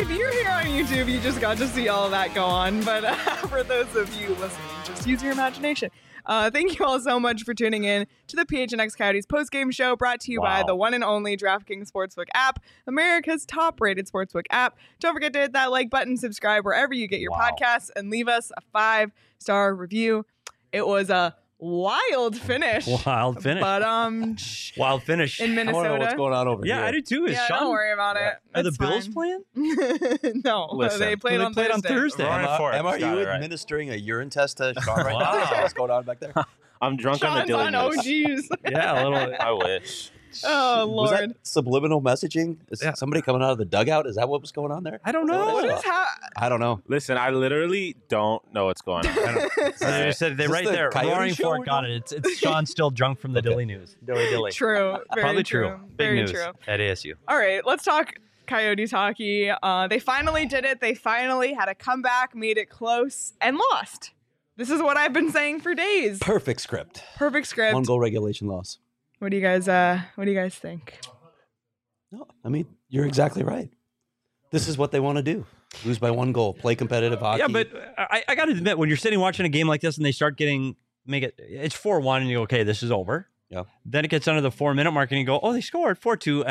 if you're here on YouTube, you just got to see all of that go on. But for those of you listening, just use your imagination. Thank you all so much for tuning in to the PHNX Coyotes postgame show, brought to you by the one and only DraftKings Sportsbook app, America's top-rated sportsbook app. Don't forget to hit that like button, subscribe wherever you get your podcasts, and leave us a 5-star review. It was a wild finish. Wild finish. But wild finish in Minnesota. I want to know what's going on over here. Yeah, I do too. Don't worry about it. Are the It's Bills fine. playing? No, Listen, they played on Thursday. Emma, are you administering a urine test to Sean right now? What's going on back there? I'm drunk on the Sean's Dilly on News. OGs. Yeah, a little. I wish. Oh, Was Lord. that subliminal messaging? Is somebody coming out of the dugout? Is that what was going on there? I don't know. What is I don't know. Listen, I literally don't know what's going on. They said they Is this right the there. Coyote Roaring show Fork we're got it. It's Sean still drunk from the Dilly News. Dilly. True. Very Probably true. Big Very news true. at ASU. All right, let's talk Coyotes hockey. They finally did it. They finally had a comeback, made it close, and lost. This is what I've been saying for days. Perfect script. Perfect script. 1-goal regulation loss. What do you guys think? No, I mean, you're exactly right. This is what they want to do. Lose by 1 goal. Play competitive hockey. Yeah, but I got to admit, when you're sitting watching a game like this and they start it's 4-1 and you go, okay, this is over. Yeah. Then it gets under the 4-minute mark and you go, oh, they scored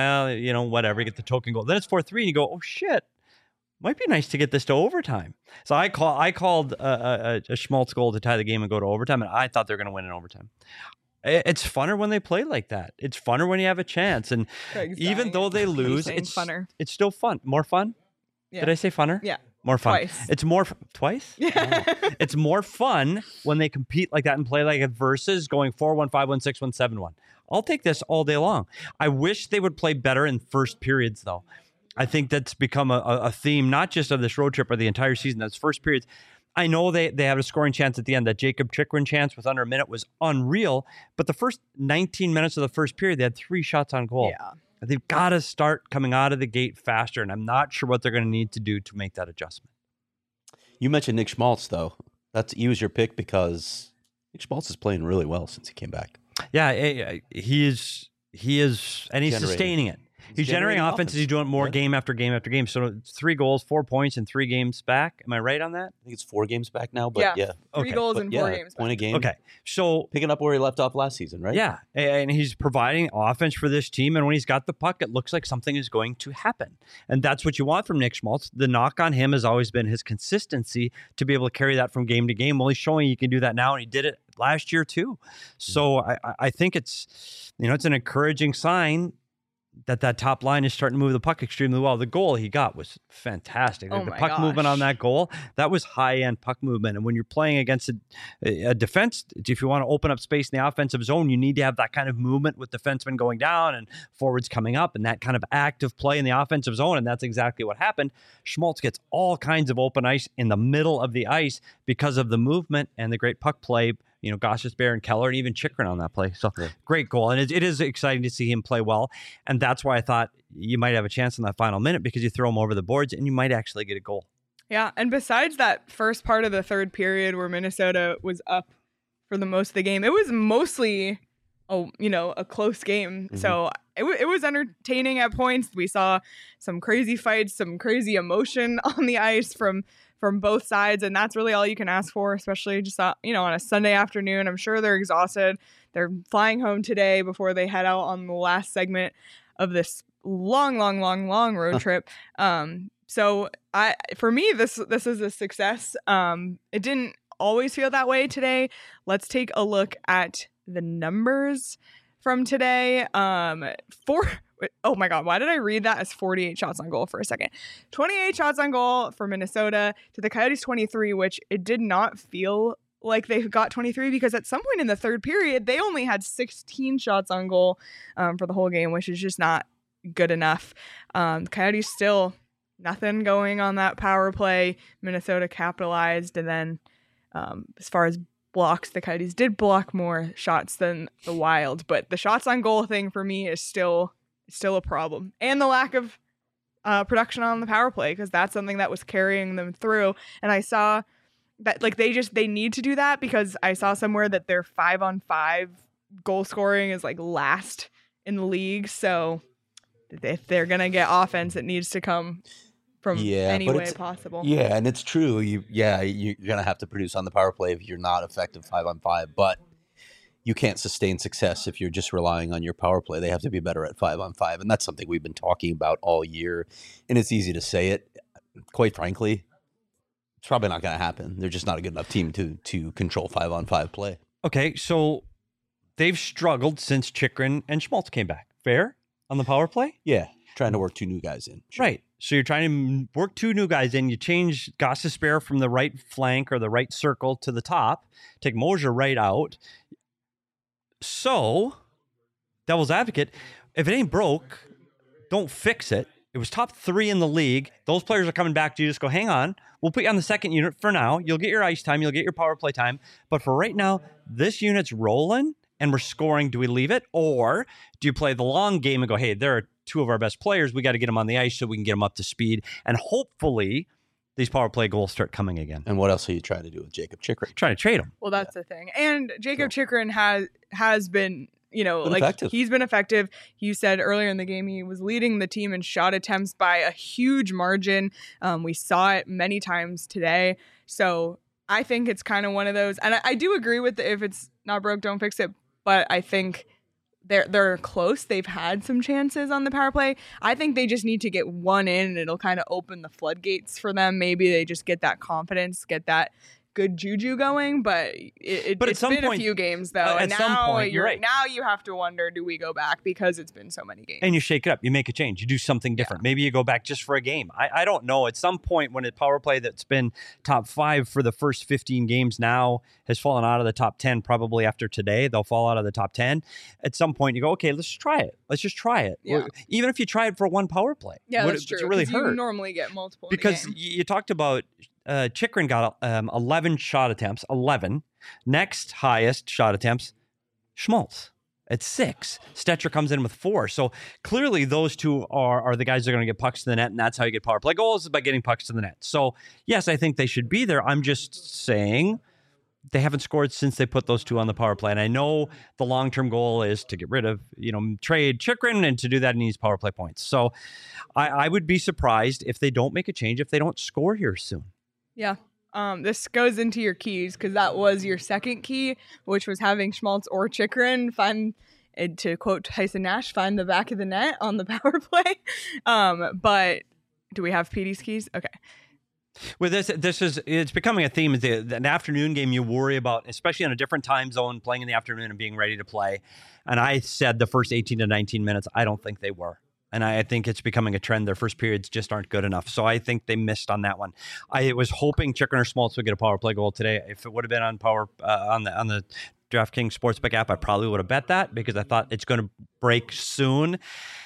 4-2. Whatever, you get the token goal. Then it's 4-3 and you go, oh shit, might be nice to get this to overtime. So I called a Schmaltz goal to tie the game and go to overtime, and I thought they were going to win in overtime. It's funner when they play like that. It's funner when you have a chance, and even though they lose, it's funner. It's still fun. More fun. Yeah. Did I say funner? Yeah. More fun. Twice. It's more twice. Yeah. Oh. It's more fun when they compete like that and play like it versus going 4-1, 5-1, 6-1, 7-1. I'll take this all day long. I wish they would play better in first periods, though. I think that's become a theme, not just of this road trip or the entire season. That's first periods. I know they have a scoring chance at the end. That Jacob Chikrin chance with under a minute was unreal. But the first 19 minutes of the first period, they had 3 shots on goal. Yeah. They've got to start coming out of the gate faster, and I'm not sure what they're going to need to do to make that adjustment. You mentioned Nick Schmaltz, though. He was your pick because Nick Schmaltz is playing really well since he came back. Yeah, he is, and he's sustaining it. He's generating offenses. He's doing more game after game after game. So 3 goals, 4 points in 3 games back. Am I right on that? I think it's 4 games back now, but yeah. 3 goals in 4 games. Point a game. Okay. So picking up where he left off last season, right? Yeah. And he's providing offense for this team. And when he's got the puck, it looks like something is going to happen. And that's what you want from Nick Schmaltz. The knock on him has always been his consistency to be able to carry that from game to game. Well, he's showing he can do that now, and he did it last year too. So I think it's an encouraging sign that top line is starting to move the puck extremely well. The goal he got was fantastic. Oh the puck movement on that goal, that was high-end puck movement. And when you're playing against a defense, if you want to open up space in the offensive zone, you need to have that kind of movement with defensemen going down and forwards coming up and that kind of active play in the offensive zone. And that's exactly what happened. Schmaltz gets all kinds of open ice in the middle of the ice because of the movement and the great puck play. Gostisbehere and Keller and even Chikrin on that play. So Great goal. And it is exciting to see him play well. And that's why I thought you might have a chance in that final minute because you throw him over the boards and you might actually get a goal. Yeah. And besides that first part of the third period where Minnesota was up for the most of the game, it was mostly, a close game. Mm-hmm. So it was entertaining at points. We saw some crazy fights, some crazy emotion on the ice from both sides. And that's really all you can ask for, especially just, on a Sunday afternoon. I'm sure they're exhausted. They're flying home today before they head out on the last segment of this long road trip. So for me, this is a success. It didn't always feel that way today. Let's take a look at the numbers from today. Oh my God, why did I read that as 48 shots on goal for a second? 28 shots on goal for Minnesota to the Coyotes 23, which it did not feel like they got 23 because at some point in the third period, they only had 16 shots on goal for the whole game, which is just not good enough. Coyotes still nothing going on that power play. Minnesota capitalized, and then as far as blocks, the Coyotes did block more shots than the Wild, but the shots on goal thing for me is still a problem. And the lack of production on the power play, because that's something that was carrying them through. And I saw that they need to do that because I saw somewhere that their 5-on-5 goal scoring is last in the league. So if they're going to get offense, it needs to come from any but way possible. Yeah, and it's true. You're gonna have to produce on the power play if you're not effective 5-on-5. But you can't sustain success if you're just relying on your power play. They have to be better at 5-on-5, and that's something we've been talking about all year. And it's easy to say it. Quite frankly, it's probably not going to happen. They're just not a good enough team to control 5-on-5 play. Okay, so they've struggled since Chychrun and Schmaltz came back. Fair on the power play? Yeah, trying to work two new guys in. Sure. Right. So you're trying to work two new guys in. You change Gostisbehere from the right flank or the right circle to the top. Take Mosier right out. So, devil's advocate, if it ain't broke, don't fix it. It was top 3 in the league. Those players are coming back to you. Just go, hang on. We'll put you on the second unit for now. You'll get your ice time. You'll get your power play time. But for right now, this unit's rolling and we're scoring. Do we leave it? Or do you play the long game and go, hey, there are 2 of our best players. We got to get them on the ice so we can get them up to speed. And hopefully these power play goals start coming again. And what else are you trying to do with Jacob Chychrun? Trying to trade him. Well, that's the thing. And Jacob Chychrun has been, Effective. He's been effective. You said earlier in the game he was leading the team in shot attempts by a huge margin. We saw it many times today. So I think it's kind of one of those. And I do agree with if it's not broke, don't fix it. But I think they're close. They've had some chances on the power play. I think they just need to get one in and it'll kind of open the floodgates for them. Maybe they just get that confidence, get that good juju going, but it's been a few games though. At some point, you're right. Now you have to wonder, do we go back because it's been so many games? And you shake it up. You make a change. You do something different. Maybe you go back just for a game. I don't know. At some point when a power play that's been top 5 for the first 15 games now has fallen out of the top 10, probably after today, they'll fall out of the top 10. At some point you go, okay, let's try it. Let's just try it. Yeah. Even if you try it for one power play. Yeah, that's true. It really hurt. You normally get multiple because in a game. you talked about Chychrun got 11 shot attempts, 11. Next highest shot attempts, Schmaltz at 6. Stetcher comes in with 4. So clearly those two are the guys that are going to get pucks to the net, and that's how you get power play goals, is by getting pucks to the net. So yes, I think they should be there. I'm just saying they haven't scored since they put those 2 on the power play. And I know the long-term goal is to get rid of, trade Chychrun, and to do that, he needs power play points. So I would be surprised if they don't make a change, if they don't score here soon. Yeah. This goes into your keys because that was your second key, which was having Schmaltz or Chychrun find, to quote Tyson Nash, find the back of the net on the power play. But do we have PD's keys? Okay. Well, it's becoming a theme. An afternoon game you worry about, especially in a different time zone, playing in the afternoon and being ready to play. And I said the first 18 to 19 minutes, I don't think they were. And I think it's becoming a trend. Their first periods just aren't good enough. So I think they missed on that one. I was hoping Chychrun or Schmaltz would get a power play goal today. If it would have been on on the DraftKings Sportsbook app, I probably would have bet that because I thought it's going to break soon.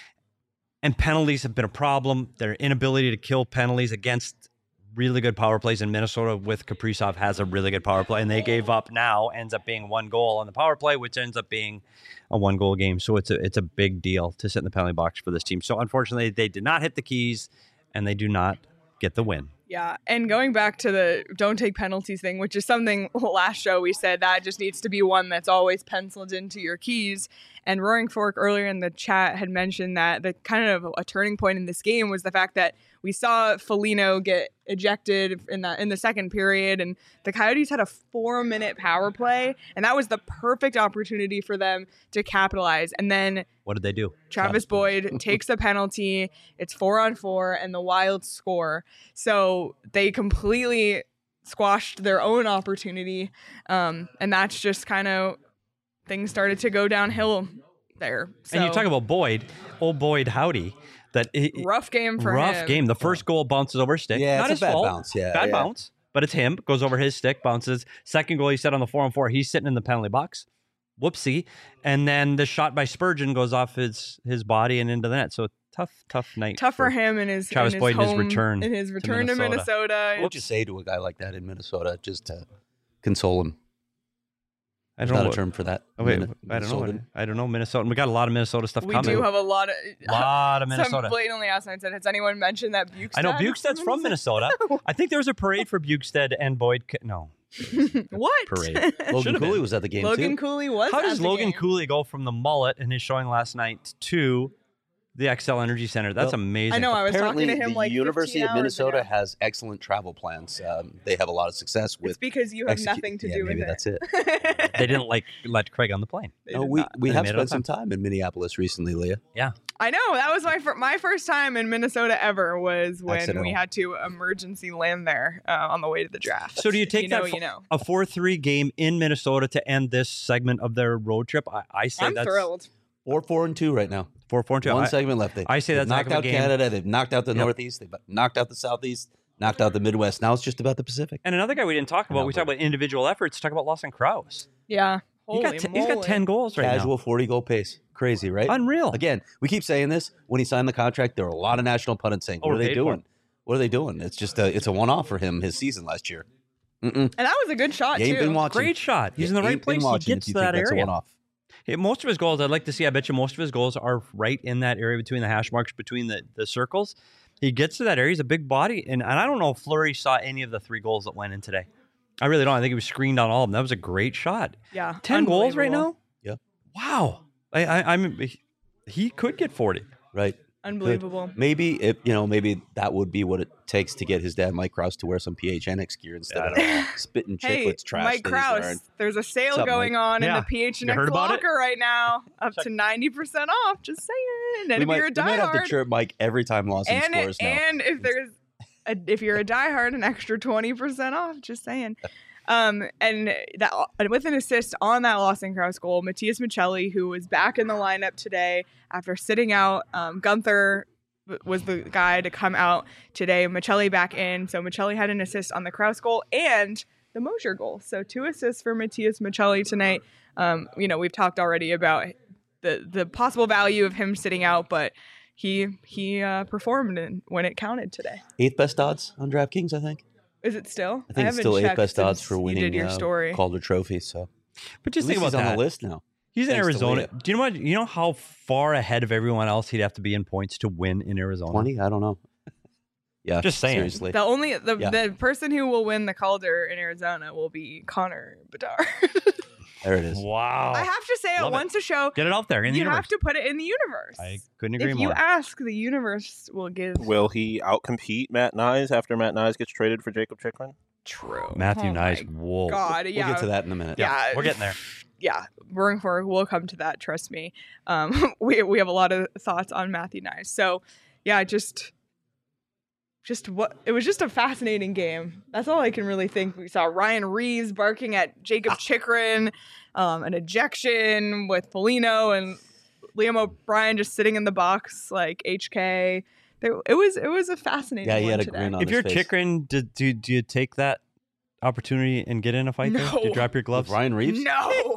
And penalties have been a problem. Their inability to kill penalties against really good power plays in Minnesota with Kaprizov has a really good power play, and they gave up now ends up being 1 goal on the power play, which ends up being a 1-goal game. So it's a big deal to sit in the penalty box for this team. So unfortunately, they did not hit the keys, and they do not get the win. Yeah, and going back to the don't take penalties thing, which is something last show we said that just needs to be one that's always penciled into your keys. And Roaring Fork earlier in the chat had mentioned that the kind of a turning point in this game was the fact that we saw Foligno get ejected in the second period, and the Coyotes had a 4-minute power play, and that was the perfect opportunity for them to capitalize. And then what did they do? Travis Boyd takes a penalty. It's 4-on-4, and the Wild score. So they completely squashed their own opportunity, and that's just kind of things started to go downhill there. So, and you talk about Boyd, old Boyd Howdy. Rough game for him. Rough game. The first goal bounces over his stick. Yeah, not it's his a bad fault. bounce. Yeah, bad bounce. But it's him. Goes over his stick, bounces. Second goal he set on the 4-on-4. He's sitting in the penalty box. Whoopsie. And then the shot by Spurgeon goes off his body and into the net. So tough night. Tough for him in his Travis Boyd home, in his return. In his return to Minnesota. What would you say to a guy like that in Minnesota just to console him? I don't know a term for that. Oh, wait, I don't know. I don't know Minnesota. We got a lot of Minnesota stuff coming. We do have a lot of Minnesota. Some blatantly asked and said, has anyone mentioned that Bukestad? I know Bukestad's from Minnesota. I think there was a parade for Bukestad and Boyd. No. What? Parade. Logan Cooley was at the game Logan too. Cooley was How at does the Logan game. Cooley go from the mullet in his showing last night to the XL Energy Center. That's Well, amazing. I know. I was Apparently, talking to him the like University 15 of hours Minnesota ago. has excellent travel plans. They have a lot of success with. It's because you have nothing to do with maybe it. that's it. They didn't let Craig on the plane. They No, did we not. we They have made it on spent some time in Minneapolis recently, Leah. I know that was my first time in Minnesota ever was when Accidental. we had to emergency land there on the way to the draft. So do you take that You know. a 4-3 game in Minnesota to end this segment of their road trip? I say I'm that's thrilled. 4-4-2 right now. 4-4-2. One segment left. I say They've that's a heck knocked of a out game. Canada. They've knocked out the Yep. Northeast. They've knocked out the Southeast. Knocked out the Midwest. Now it's just about the Pacific. And another guy we didn't talk about. We talked about individual efforts. Talk about Lawson Krause. Yeah. He's got 10 goals right Casual 40-goal pace. Crazy, right? now. Unreal. Again, we keep saying this. When he signed the contract, there were a lot of national pundits saying, "What are they Overpaid for doing? him. What are they doing?" It's just it's a one-off for him. His season last year. And that was a good shot You ain't too. been watching. Great shot. He's in the You right ain't been place. He watching gets if you to think that that's a area. one-off. Hey, most of his goals, I'd like to see. I bet you most of his goals are right in that area between the hash marks, between the circles. He gets to that area. He's a big body. And I don't know if Fleury saw any of the 3 goals that went in today. I really don't. I think he was screened on all of them. That was a great shot. Yeah. 10 goals right Unbelievable. now? Yeah. Wow. He could get 40. Right. Unbelievable. Maybe maybe that would be what it takes to get his dad Mike Krause to wear some PHNX gear instead of spitting Hey, chiclets trash. Mike that he's wearing. Krause, there's a sale What's up, going Mike? on in Yeah. the You PHNX heard about it? locker right now, up to 90% off. Just saying. And We if might, you're a we might have to diehard, chirp Mike every time Lawson scores now. and if you're a diehard, an extra 20% off. Just saying. And with an assist on that Lawson Krause goal, Matthias Michelli, who was back in the lineup today after sitting out. Gunther was the guy to come out today. Michelli back in. So Michelli had an assist on the Krause goal and the Mosier goal. So 2 assists for Matthias Michelli tonight. We've talked already about the possible value of him sitting out, but he performed when it counted today. 8th best odds on DraftKings, I think. Is it still? I think it's haven't still 8th checked best odds since for you winning did your story. Calder Trophy. So But just at think least about he's that. on the list now. He's in Thanks to Arizona. Leah. Do you know what? You know how far ahead of everyone else he'd have to be in points to win in Arizona? 20? I don't know. Yeah, Just saying. Seriously. The person who will win the Calder in Arizona will be Connor Bedard. There it is. Wow. I have to say it Love it. once a show. Get it out there in the You universe. have to put it in the universe. I couldn't agree If more. you ask, the universe will give. Will he outcompete Matt Nyes after Matt Nyes gets traded for Jacob Chikrin? True. Matthew Oh Nice. my Whoa. God, yeah. We'll get to that in a minute. Yeah, We're getting there. Yeah, we'll come to that. Trust me. We have a lot of thoughts on Matthew Nice. So, yeah, just what it was just a fascinating game. That's all I can really think. We saw Ryan Reeves barking at Jacob Chikrin, an ejection with Foligno and Liam O'Brien just sitting in the box like HK. It was a fascinating. Yeah, he one had a today. grin on If his you're face. Chikrin, do you take that opportunity and get in a fight there? Do you No. drop your With gloves? Ryan Reeves? No,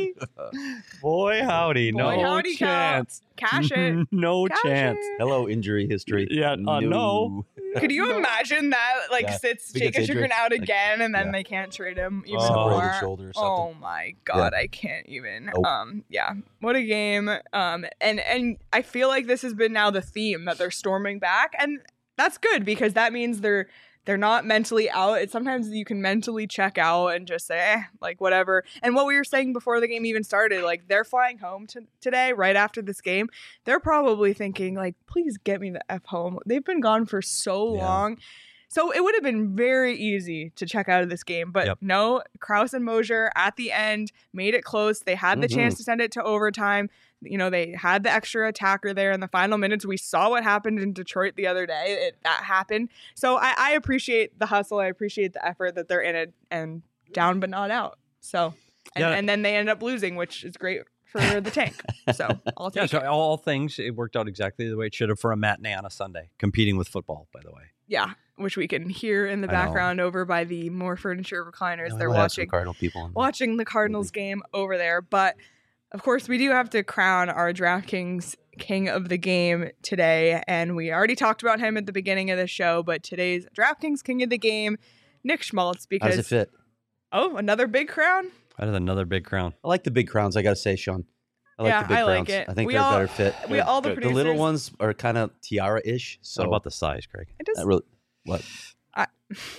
Boy, howdy. Boy, no howdy, chance. cash it. No Cash chance. it. Hello, injury history. Yeah, no. Could you No. imagine that? Like Yeah. sits He gets Jacob injured. Chikrin out again, and then Yeah. they can't trade him even Oh. Separated more. shoulder or Oh something. my God, I can't even. Nope. Yeah, what a game. And I feel like this has been now the theme that they're storming back, and that's good because that means they're not mentally out. It's sometimes you can mentally check out and just say, like, whatever. And what we were saying before the game even started, like, they're flying home today, right after this game. They're probably thinking, like, please get me the F home. They've been gone for so Yeah. long. So it would have been very easy to check out of this game. But Yep. no, Krause and Mosier at the end made it close. They had the chance to send it to overtime. You know, they had the extra attacker there in the final minutes. We saw what happened in Detroit the other day. That happened. So I appreciate the hustle. I appreciate the effort that they're in it and down but not out. So, and then they end up losing, which is great for the tank. So I'll Yeah, take so it. all things, it worked out exactly the way it should have for a matinee on a Sunday, competing with football, by the way. Yeah, which we can hear in the I know. background over by the More Furniture recliners. Yeah, we They're might have some watching Cardinal people on there. watching the Cardinals game over there. But of course, we do have to crown our DraftKings king of the game today. And we already talked about him at the beginning of the show, but today's DraftKings king of the game, Nick Schmaltz, How does it because, fit? oh, another big crown? That is another big crown. I like the big crowns, I got to say, Sean. I like Yeah, the big I crowns. like it. I think We they're all- a better fit. We all the Good. The producers. little ones are kind of tiara-ish. So What about the size, Craig? It just, not really. What?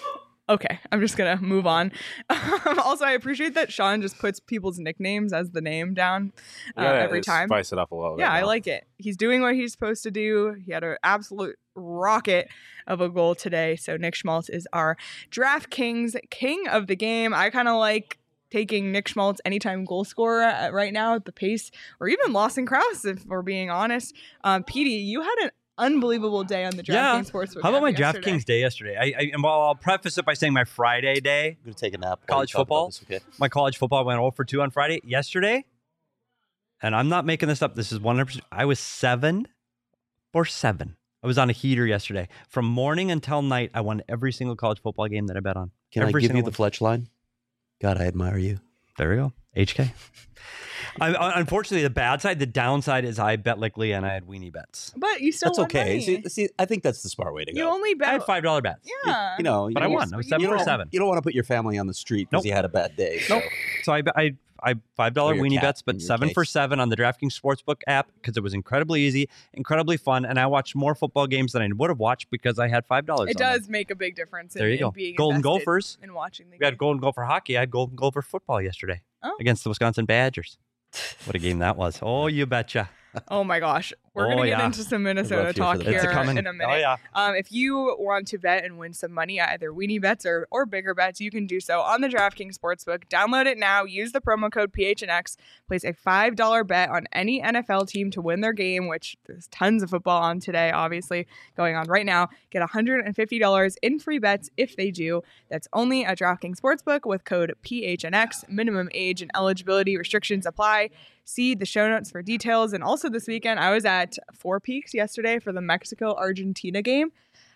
Okay, I'm just gonna move on. Also, I appreciate that Sean just puts people's nicknames as the name down every time. Spice it up a little bit. Yeah, I now. like it. He's doing what he's supposed to do. He had an absolute rocket of a goal today. So Nick Schmaltz is our DraftKings king of the game. I kind of like taking Nick Schmaltz anytime goal scorer right now at the pace, or even Lawson Krause, if we're being honest. Petey, you had an unbelievable day on the DraftKings Sportsbook. How about my app yesterday. DraftKings day yesterday? And well, I'll preface it by saying my Friday day, I'm gonna take a nap. College football. My college football went 0 for 2 on Friday. Yesterday, and I'm not making this up, this is 100%. I was 7 for 7. I was on a heater yesterday. From morning until night, I won every single college football game that I bet on. Can I Every give you single the Fletch line? God, I admire you. There we go. HK. Unfortunately, the bad side, the downside is I bet like Leah and I had weenie bets. But you still That's won okay. money. See, I think that's the smart way to go. You only I had bet. $5 bets. Yeah. You know, But I you won. I was 7 you for don't- 7. You don't want to put your family on the street because Nope. you had a bad day. So. Nope. So I $5 Or your weenie cat, bets, in but your 7 for case. 7 on the DraftKings Sportsbook app because it was incredibly easy, incredibly fun, and I watched more football games than I would have watched because I had $5. It on does them. make a big difference. There you in go. Being Golden invested Gophers. and watching the We had game. Golden Gopher hockey. I had Golden Gopher football yesterday Oh. against the Wisconsin Badgers. What a game that was! Oh, you betcha! Oh my gosh. We're Oh, going to get yeah. into some Minnesota love you talk for the here bet. It's coming. in a minute. Oh yeah. If you want to bet and win some money, either weenie bets or bigger bets, you can do so on the DraftKings Sportsbook. Download it now. Use the promo code PHNX. Place a $5 bet on any NFL team to win their game, which there's tons of football on today, obviously, going on right now. Get $150 in free bets if they do. That's only at DraftKings Sportsbook with code PHNX. Minimum age and eligibility restrictions apply. See the show notes for details. And also this weekend, I was at Four Peaks yesterday for the Mexico-Argentina game.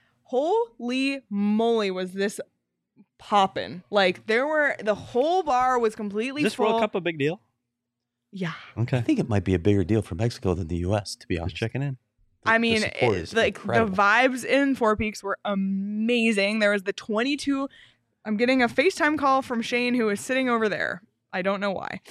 Holy moly, was this poppin'. Like, the whole bar was completely Is this full. World Cup a big deal? Yeah. Okay. I think it might be a bigger deal for Mexico than the U.S., to be Just honest. checking in. I The mean, support is the incredible. vibes in Four Peaks were amazing. There was the 22. I'm getting a FaceTime call from Shane, who is sitting over there. I don't know why.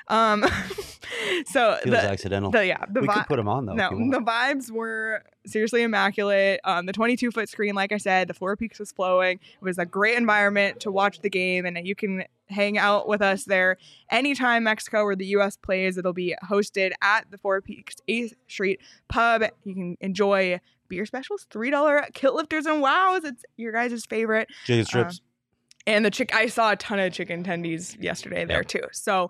So Feels accidental. the we could put them on, though. No, if you want. the vibes were seriously immaculate. The 22-foot screen, like I said, the Four Peaks was flowing. It was a great environment to watch the game, and you can hang out with us there anytime Mexico or the U.S. plays. It'll be hosted at the Four Peaks 8th Street Pub. You can enjoy beer specials, $3 kilt lifters and wows. It's your guys' favorite. Chicken strips. And I saw a ton of chicken tendies yesterday there too. So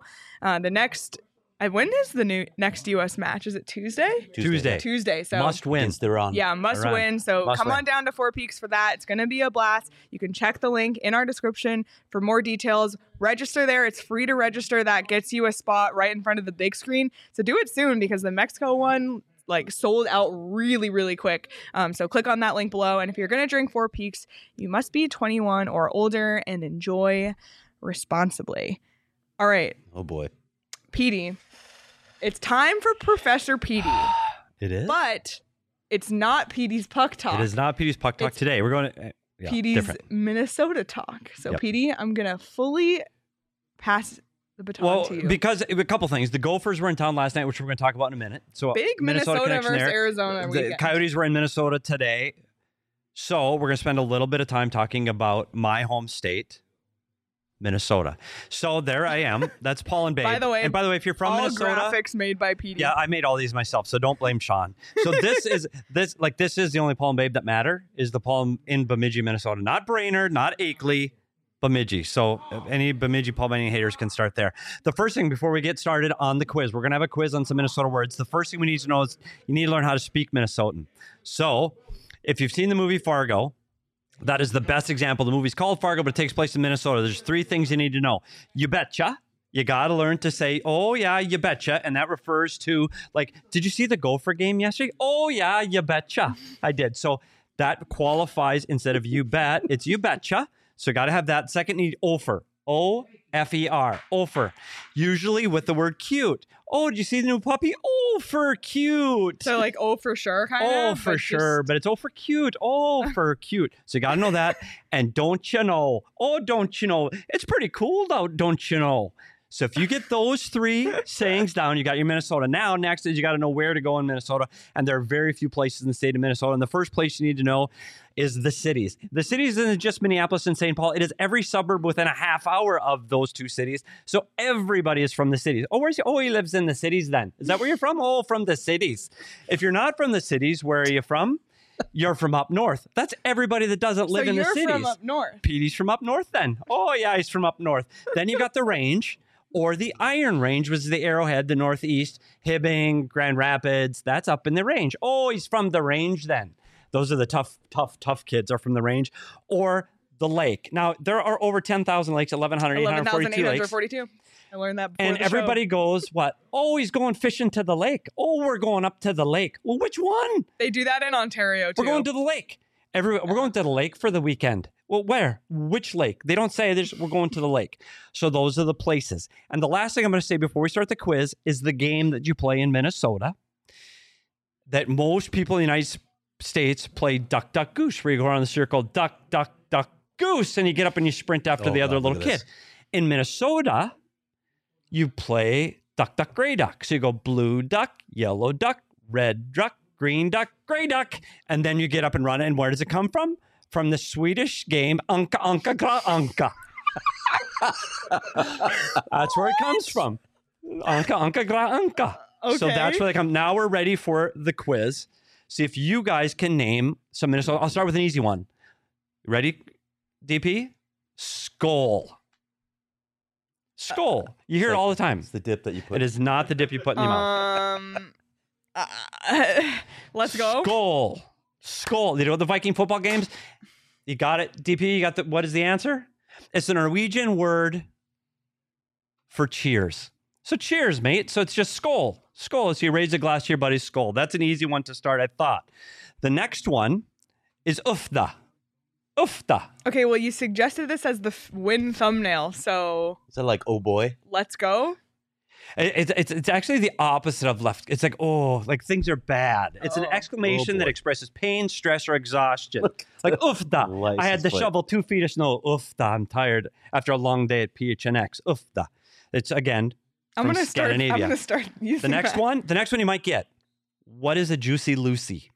when is the next U.S. match? Is it Tuesday? Tuesday. Tuesday. So Must win. Against Iran. yeah, must Iran. win. So Must come win. on down to Four Peaks for that. It's going to be a blast. You can check the link in our description for more details. Register there. It's free to register. That gets you a spot right in front of the big screen. So do it soon because the Mexico one sold out really, really quick. So click on that link below. And if you're going to drink Four Peaks, you must be 21 or older and enjoy responsibly. All right, Oh, boy. Petey. It's time for Professor Petey. It is. But it's not Petey's Puck Talk. It is not Petey's Puck Talk It's today. We're going to Petey's different. Minnesota Talk. So, Yep. Petey, I'm going to fully pass the baton Well, to you. because a couple things. The Gophers were in town last night, which we're going to talk about in a minute. So Big Minnesota connection versus there. Arizona The weekend. Coyotes were in Minnesota today. So we're going to spend a little bit of time talking about my home state, Minnesota. So there I am. That's Paul and Babe. By the way, if you're from All Minnesota, graphics made by Petey. yeah, I made all these myself, so don't blame Sean. So this is the only Paul and Babe that matter is the Paul in Bemidji, Minnesota, not Brainerd, not Akeley, Bemidji. So any Bemidji Paul Benning haters can start there. The first thing before we get started on the quiz, we're gonna have a quiz on some Minnesota words. The first thing we need to know is you need to learn how to speak Minnesotan. So if you've seen the movie Fargo, that is the best example. The movie's called Fargo, but it takes place in Minnesota. There's 3 things you need to know. You betcha. You got to learn to say, oh, yeah, you betcha. And that refers to, did you see the Gopher game yesterday? Oh, yeah, you betcha. I did. So that qualifies instead of you bet. It's you betcha. So got to have that. Second, need Ofer. O-F-E-R. Ofer. Usually with the word cute. Oh, did you see the new puppy? Oh, for cute. So, for sure, kind of. Oh, for sure. But it's for cute. Oh, for cute. So you got to know that. And don't you know? Oh, don't you know? It's pretty cool, though, don't you know? So if you get those 3 sayings down, you got your Minnesota. Now, next is you got to know where to go in Minnesota. And there are very few places in the state of Minnesota. And the first place you need to know is the cities. The cities isn't just Minneapolis and St. Paul. It is every suburb within a half hour of those 2 cities. So everybody is from the cities. He lives in the cities then. Is that where you're from? Oh, from the cities. If you're not from the cities, where are you from? You're from up north. That's everybody that doesn't live in the cities. So you're from up north. Petey's from up north then. Oh, yeah, he's from up north. Then you got the range. Or the Iron Range, was the Arrowhead, the Northeast, Hibbing, Grand Rapids. That's up in the range. Oh, he's from the range then. Those are the tough kids are from the range. Or the lake. Now, there are over 10,000 lakes, 11,842 lakes. I learned that before And everybody goes, what? Oh, he's going fishing to the lake. Oh, we're going up to the lake. Well, which one? They do that in Ontario, too. We're going to the lake. We're going to the lake for the weekend. Well, where? Which lake? They don't say we're going to the lake. So those are the places. And the last thing I'm going to say before we start the quiz is the game that you play in Minnesota that most people in the United States play duck, duck, goose, where you go around the circle, duck, duck, duck, goose, and you get up and you sprint after the other little kid. In Minnesota, you play duck, duck, gray duck. So you go blue duck, yellow duck, red duck, green duck, gray duck, and then you get up and run. And where does it come from? From the Swedish game, Anka, Anka, Gra, Anka. That's where it comes from. Anka, Anka, Gra, Anka. Okay. So that's where they come. Now we're ready for the quiz. See if you guys can name some Minnesota. I'll start with an easy one. Ready, DP? Skull. Skull. You hear it all the time. It's the dip that you put. It is not the dip you put in your mouth. Let's go. Skull. You know the Viking football games? You got it, DP? You got the, what is the answer? It's the Norwegian word for cheers. So cheers, mate. So it's just skull. Skull. So you raise a glass to your buddy's skull. That's an easy one to start, I thought. The next one is ufda. Ufda. Okay, well, you suggested this as the win thumbnail, so... Is that like, oh boy? Let's go? It's actually the opposite of left. It's like, oh, like things are bad. It's an exclamation that expresses pain, stress, or exhaustion. Like, ufda. I had to shovel 2 feet of snow. Ufda. I'm tired after a long day at PHNX. Ufda. It's, again, from Scandinavia. I'm going to start using the next one you might get. What is a Juicy Lucy?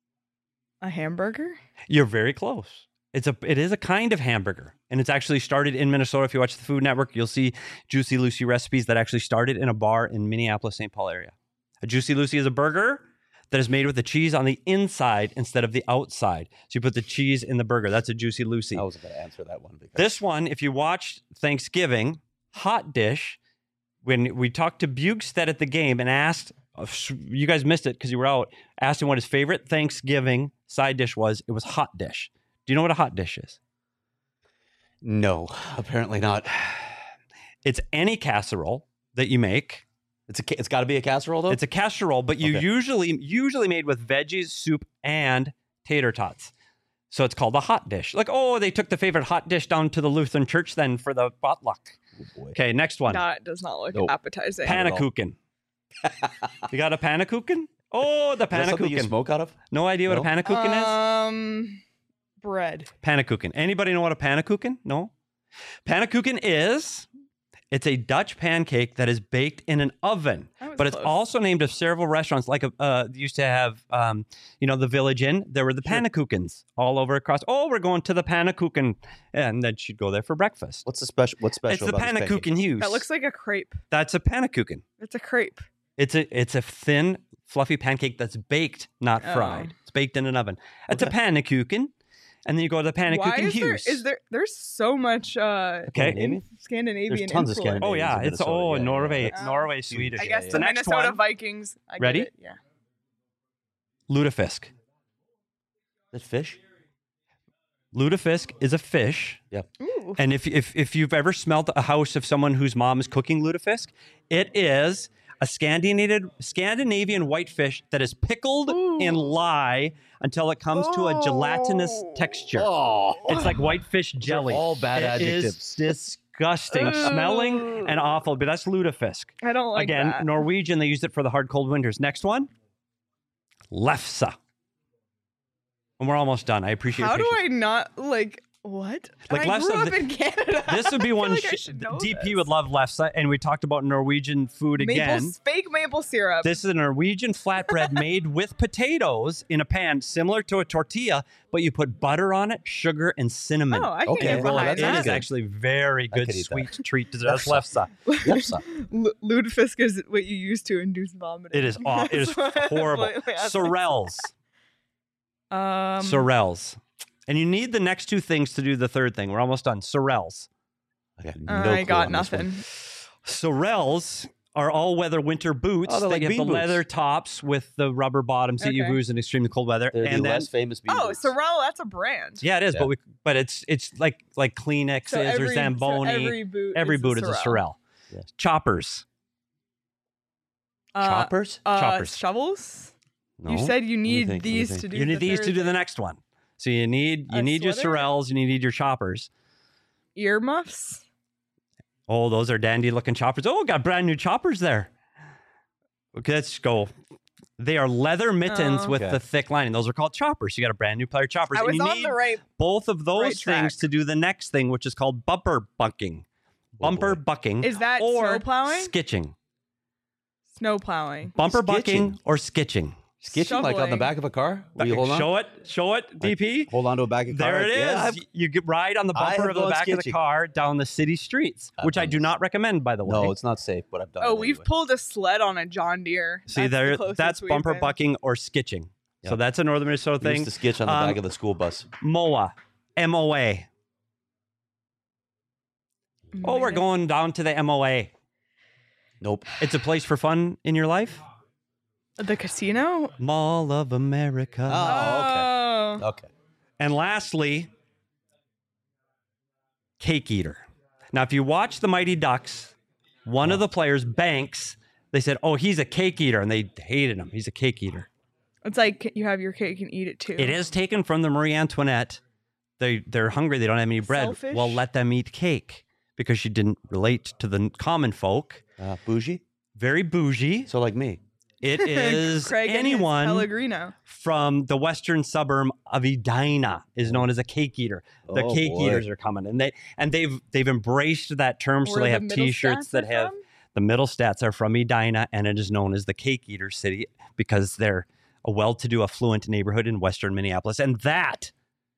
A hamburger? You're very close. It is a kind of hamburger, and it's actually started in Minnesota. If you watch the Food Network, you'll see Juicy Lucy recipes that actually started in a bar in Minneapolis, St. Paul area. A Juicy Lucy is a burger that is made with the cheese on the inside instead of the outside. So you put the cheese in the burger. That's a Juicy Lucy. I was going to answer that one. This one, if you watch Thanksgiving, Hot Dish, when we talked to Bugstead at the game and asked, you guys missed it because you were out, asked him what his favorite Thanksgiving side dish was, it was Hot Dish. Do you know what a hot dish is? No, apparently not. It's any casserole that you make. It's got to be a casserole, though? It's a casserole, but you usually made with veggies, soup, and tater tots. So it's called a hot dish. Like, oh, they took the favorite hot dish down to the Lutheran church then for the potluck. Oh, okay, next one. That does not look appetizing. Pannekuchen. You got a pannekuchen? Oh, the pannekuchen. Is that something you smoke out of? No idea what a pannekuchen is? Bread. Pannekuchen. Anybody know what a pannekuchen? No? Pannekuchen it's a Dutch pancake that is baked in an oven, but it's also named of several restaurants. Like used to have, the Village Inn. There were the pannekuchens all over across. Oh, we're going to the pannekuchen, and then she'd go there for breakfast. What's special? It's the pannekuchen Hughes. That looks like a crepe. That's a pannekuchen. It's a crepe. It's a thin, fluffy pancake that's baked, not fried. It's baked in an oven. It's a pannekuchen. And then you go to the Pannekuchen Hughes. There's so much Scandinavian There's tons of Scandinavian. Oh yeah, it's Norway, Swedish. I guess the Minnesota Vikings. Ready? Get it. Yeah. Lutefisk. Is that fish? Lutefisk is a fish. Yep. Ooh. And if you've ever smelled a house of someone whose mom is cooking lutefisk, it is a Scandinavian whitefish that is pickled in lye until it comes to a gelatinous texture. Oh. It's like whitefish jelly. All bad adjectives. Is disgusting, smelling and awful, but that's lutefisk. I don't like that. Again, Norwegian, they used it for the hard, cold winters. Next one, lefse. And we're almost done. I appreciate How your do patience. I not, What? Like I left grew side, up in Canada. This would be I feel one like I should know DP this. would love left side. And we talked about Norwegian food again. Fake maple syrup. This is a Norwegian flatbread made with potatoes in a pan, similar to a tortilla, but you put butter on it, sugar, and cinnamon. Oh, I can Okay, get well, behind that's It that. is good. actually very good could eat sweet that. treat dessert. Left That's left side. Left side. Lutefisk is what you use to induce vomiting. It is it is horrible. Sorels. Sorels. And you need the next two things to do the third thing. We're almost done. Sorels. I got, I got nothing. Sorels are all-weather winter boots. Oh, they're they like get bean the boots. leather tops with the rubber bottoms that you Okay. use in extremely cold weather. They're and the then, less famous bean Oh, boots. Sorel, that's a brand. yeah, it is. Yeah. But it's like Kleenexes or Zamboni. Every boot is a Sorel. Yeah. Choppers. Choppers? Choppers. Shovels. No. You said you Let me need think, let me these think. to do. You need the these to third do the thing. next one. So you need A your sweater? Sorels, you need your choppers. Earmuffs. Oh, those are dandy looking choppers. Oh, got brand new choppers there. Okay, let's go. They are leather mittens Oh. with Okay. the thick lining. Those are called choppers. You got a brand new pair of choppers. I and was you on need the right. both of those right things track. to do the next thing, which is called bumper bucking. Oh, Bumper boy. bucking. Is that or snow plowing? skitching. Snow plowing. Bumper Skitching. bucking or skitching. Skitching like on the Shoveling. back of a car? Will you hold on? Show it, DP. Hold on to a back of a car. There it is. Yeah, I've- You get ride on the I bumper have of the gone back of the skitching. car down the city streets, I've which I done do this. not recommend, by the way. no, it's not safe, but I've done it. Oh, we've anyway. pulled a sled on a John Deere. See, That's the closest that's we've bumper been. bucking or skitching. So Yep. that's a Northern Minnesota We thing. used to skitch on the back of the school bus. MOA. MOA. Oh, we're going down to the MOA. Nope. It's a place for fun in your life. The casino. Mall of America. Oh, Oh. Okay. And lastly, Cake Eater. Now, if you watch the Mighty Ducks, one of the players, Banks, they said, oh, he's a cake eater, and they hated him. He's a cake eater. It's like you have your cake and eat it too. It is taken from the Marie Antoinette. They're hungry. They don't have any bread. Selfish. Well, let them eat cake because she didn't relate to the common folk. Bougie? Very bougie. So like me. It is Craig and his anyone Pellegrino. from the western suburb of Edina is known as a cake eater. The Oh, cake boy. eaters are coming, and they've embraced that term. So Where they the have middle T-shirts stats that are have from? the middle stats are from Edina, and it is known as the Cake Eater City because they're a well-to-do, affluent neighborhood in western Minneapolis, and that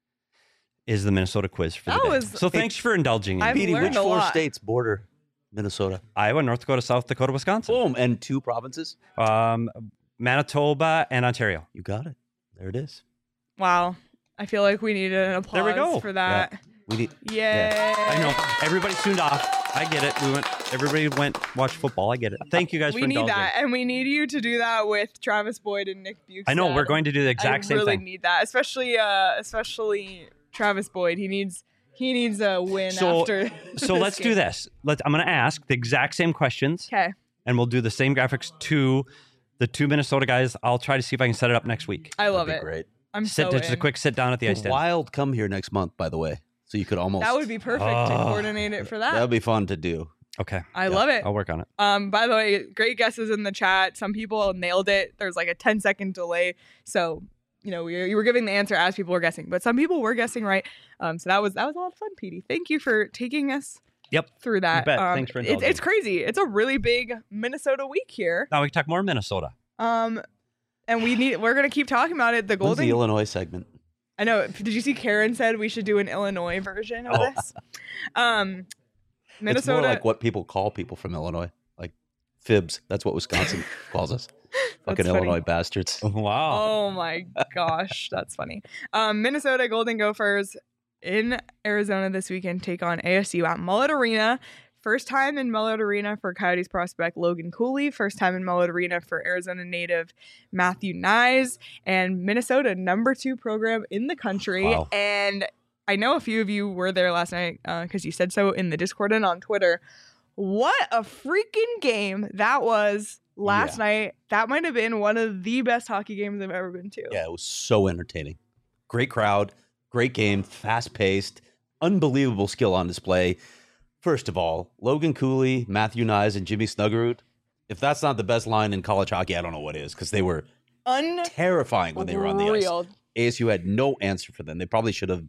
is the Minnesota quiz for the That day. was- So thanks for indulging in I've me. Petey, learned which a four lot. states border Minnesota? Iowa, North Dakota, South Dakota, Wisconsin, Boom. And 2 provinces? Manitoba, and Ontario. You got it. There it is. Wow. I feel like we needed an applause There we go. for that. We need. Yay. I know everybody tuned off. I get it. Everybody went watch football. I get it. Thank you guys We for need indulging. that. And we need you to do that with Travis Boyd and Nick Bukestad. I know we're going to do the exact I same really thing. need that. Especially Travis Boyd. He needs a win So- after So let's do this. I'm going to ask the exact same questions, Okay. and we'll do the same graphics to the 2 Minnesota guys. I'll try to see if I can set it up next week. I love That'd it. be great. I'm so Just a in. quick sit down at the ice Would den. Wild come here next month, by the way. So you could almost. That would be perfect to Oh. coordinate it for that. That would be fun to do. Okay, I love it. I'll work on it. By the way, great guesses in the chat. Some people nailed it. There's like a 10-second delay. So, you were giving the answer as people were guessing, but some people were guessing right. So that was a lot of fun, Petey. Thank you for taking us Yep. through that. bet. Thanks for indulging. It's crazy. It's a really big Minnesota week here. Now we can talk more Minnesota. And we're gonna keep talking about it. The When's Golden the Illinois segment? I know. Did you see Karen said we should do an Illinois version of Oh. this? It's Minnesota. more like what people call people from Illinois. Like fibs. That's what Wisconsin calls us. Fucking funny. Illinois bastards. Wow. Oh my gosh, that's funny. Minnesota Golden Gophers in Arizona this weekend take on ASU at Mullet Arena. First time in Mullet Arena for Coyotes prospect Logan Cooley. First time in Mullet Arena for Arizona native Matthew Nyes. And Minnesota, number 2 program in the country. Wow. And I know a few of you were there last night because you said so in the Discord and on Twitter. What a freaking game that was last night. That might have been one of the best hockey games I've ever been to. Yeah, it was so entertaining. Great crowd, great game, fast paced, unbelievable skill on display. First of all, Logan Cooley, Matthew Nyes, and Jimmy Snuggerud. If that's not the best line in college hockey, I don't know what is, because they were terrifying when they were on the ice. Unreal. ASU had no answer for them. They probably should have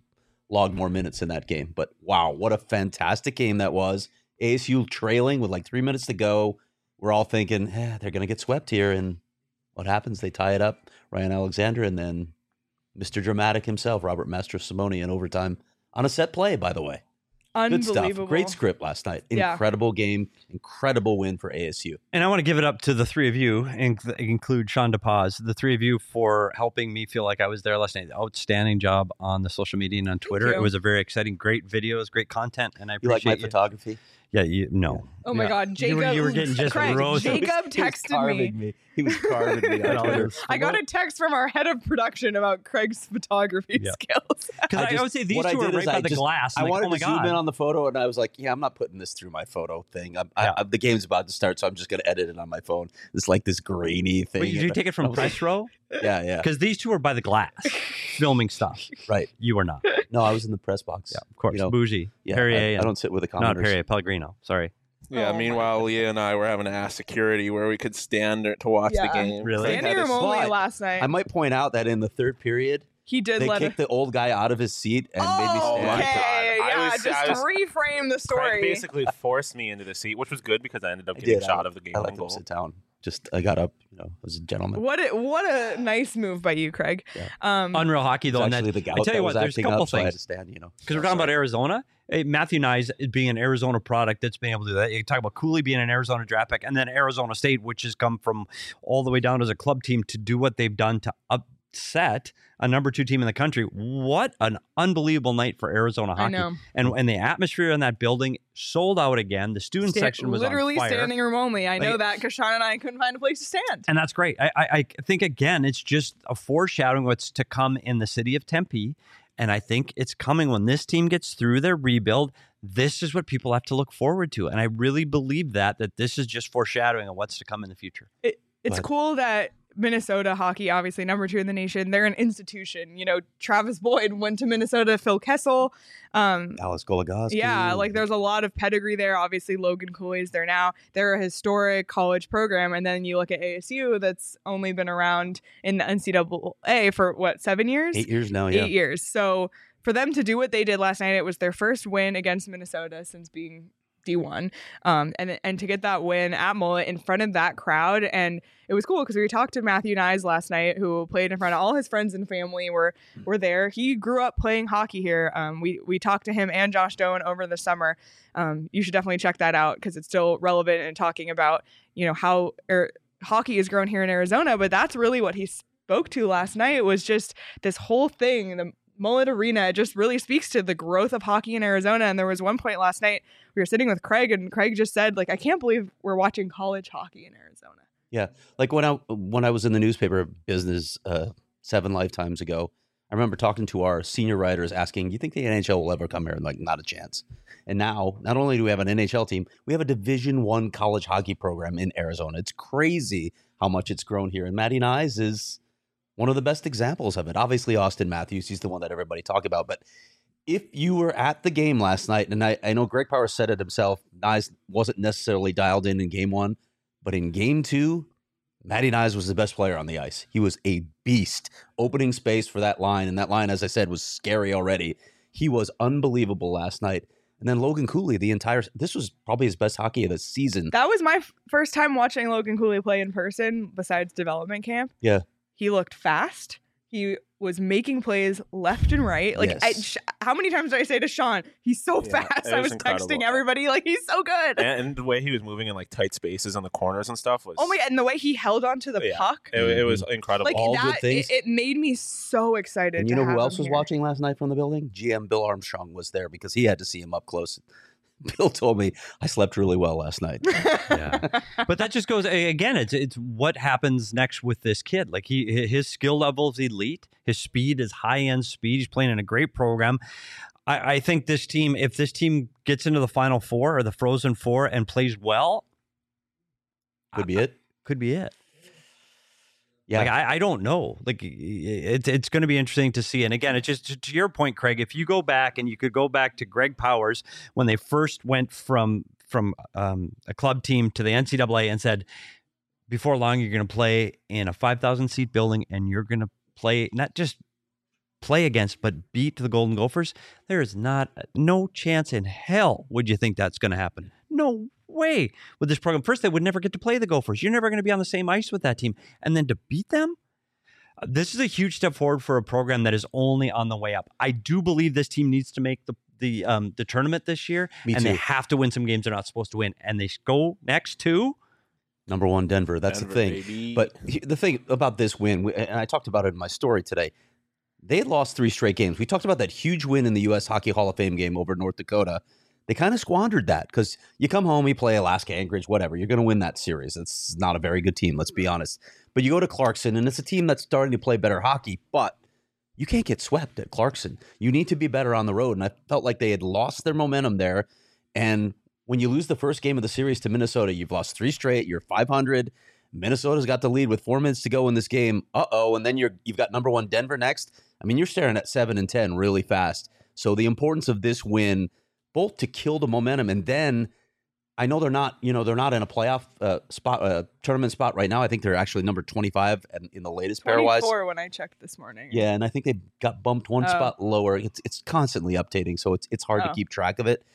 log more minutes in that game. But wow, what a fantastic game that was. ASU trailing with like 3 minutes to go. We're all thinking, they're going to get swept here. And what happens? They tie it up. Ryan Alexander, and then Mr. Dramatic himself, Robert Mastrosimone, in overtime on a set play, by the way. Good Unbelievable. stuff. Great script last night. Yeah. Incredible game. Incredible win for ASU. And I want to give it up to the three of you, and include Sean DePaz, the three of you, for helping me feel like I was there last night. Outstanding job on the social media and on Twitter. you. It was a very exciting, great videos, great content, and I You like appreciate my photography? Yeah, no. Oh my Yeah. God, Jacob! You were getting just Craig, roasted. Jacob texted me. He was carving me on Twitter. I got a text from our head of production about Craig's photography Yeah. skills. Because I would say these what I two are did right is by I the just- glass. I I'm like, wanted oh my to zoom in God. on the photo, and I was like, I'm not putting this through my photo thing. The game's about to start, so I'm just going to edit it on my phone. It's like this grainy thing. Wait, did you take it I from was like, press row? Yeah, Because these two are by the glass filming stuff. right. You are not. No, I was in the press box. Yeah, of course. You know, Bougie. Yeah, Perrier. I don't sit with the Not commenters. Perrier, Pellegrino. Sorry. Yeah. Oh my Meanwhile, Leah and I were having to ask security where we could stand to watch the Yeah. game. Really? They Standing had us- room only but last night. I might point out that in the third period, He did they let kicked the old guy out of his seat and made me Oh, stand. my okay. God. I Yeah, was- just I was- reframe the Craig story. basically forced me into the seat, which was good because I ended up I getting did. shot of the game I winning let them goal. sit down. I got up, as a gentleman. What a nice move by you, Craig. Yeah. Unreal hockey, It's though. And actually that, the gout I tell that you was what, there's a acting couple up, so I had things. to stand, Because we're talking about Arizona. Matthew Nyes being an Arizona product that's been able to do that. You talk about Cooley being an Arizona draft pick, and then Arizona State, which has come from all the way down as a club team to do what they've done to upset a number 2 team in the country. What an unbelievable night for Arizona hockey. I know. And the atmosphere in that building sold out again. The student section was literally on fire. standing room only. I know Like- that because Sean and I couldn't find a place to stand. And that's great. I think, again, it's just a foreshadowing what's to come in the city of Tempe. And I think it's coming when this team gets through their rebuild. This is what people have to look forward to. And I really believe that this is just foreshadowing of what's to come in the future. It's But- cool that Minnesota hockey, obviously number 2 in the nation, they're an institution. Travis Boyd went to Minnesota, Phil Kessel. Alice Goligoski. Yeah, like there's a lot of pedigree there. Obviously, Logan Cooley's there now. They're a historic college program. And then you look at ASU, that's only been around in the NCAA for 7 years? 8 years now, yeah. 8 years. So for them to do what they did last night, it was their first win against Minnesota since being D1, and to get that win at Mullet in front of that crowd. And it was cool because we talked to Matthew Nyes last night, who played in front of all his friends and family were there. He grew up playing hockey here. We talked to him and Josh Doan over the summer. You should definitely check that out because it's still relevant and talking about how hockey has grown here in Arizona. But that's really what he spoke to last night, was just this whole thing, the Mullet Arena. It just really speaks to the growth of hockey in Arizona. And there was one point last night we were sitting with Craig, and Craig just said, I can't believe we're watching college hockey in Arizona. Yeah, like when I was in the newspaper business 7 lifetimes ago, I remember talking to our senior writers asking, "Do you think the NHL will ever come here?" And like, not a chance. And now, not only do we have an NHL team, we have a Division I college hockey program in Arizona. It's crazy how much it's grown here. And Matty Nyes is one of the best examples of it. Obviously, Austin Matthews, he's the one that everybody talk about. But if you were at the game last night, and I know Greg Powers said it himself, Nyes wasn't necessarily dialed in game 1, but in game 2, Matty Nyes was the best player on the ice. He was a beast, opening space for that line. And that line, as I said, was scary already. He was unbelievable last night. And then Logan Cooley, this was probably his best hockey of the season. That was my first time watching Logan Cooley play in person besides development camp. Yeah. He looked fast. He was making plays left and right. Yes. How many times did I say to Sean, he's so Yeah, fast? it I was was texting incredible. everybody, he's so good. And the way he was moving in tight spaces on the corners and stuff was Oh my God, and the way he held onto the Yeah. puck. It was incredible. All good things. It made me so excited. And you to know who have else him was here. watching last night from the building? GM Bill Armstrong was there because he had to see him up close. Bill told me, I slept really well last night. Yeah. But that just goes, again, it's what happens next with this kid. Like his skill level is elite. His speed is high-end speed. He's playing in a great program. I think this team, if this team gets into the Final Four or the Frozen Four and plays well, Could be it. could be it. Yeah. Like, I don't know. Like, it's going to be interesting to see. And again, it's just to your point, Craig, if you go back and you could go back to Greg Powers when they first went from a club team to the NCAA and said, before long, you're going to play in a 5,000 seat building and you're going to play not just play against but beat the Golden Gophers, there is no chance in hell would you think that's going to happen. No way with this program. First, they would never get to play the Gophers. You're never going to be on the same ice with that team. And then to beat them, this is a huge step forward for a program that is only on the way up. I do believe this team needs to make the tournament this year, and they have to win some games they're not supposed to win. And they go next to number 1 Denver. That's the thing. Baby. But the thing about this win, and I talked about it in my story today, they had lost 3 straight games. We talked about that huge win in the U.S. Hockey Hall of Fame game over North Dakota. They kind of squandered that because you come home, you play Alaska Anchorage, whatever. You're going to win that series. It's not a very good team, let's be honest. But you go to Clarkson, and it's a team that's starting to play better hockey, but you can't get swept at Clarkson. You need to be better on the road, and I felt like they had lost their momentum there. And when you lose the first game of the series to Minnesota, you've lost 3 straight, you're 500. Minnesota's got the lead with 4 minutes to go in this game. And then you've got number 1 Denver next. I mean, you're staring at 7-10 really fast. So the importance of this win, both to kill the momentum, and then I know they're not in a playoff tournament spot right now. I think they're actually number 25 in the latest pairwise. 24 when I checked this morning. Yeah, and I think they got bumped one spot lower. It's constantly updating, so it's hard to keep track of it.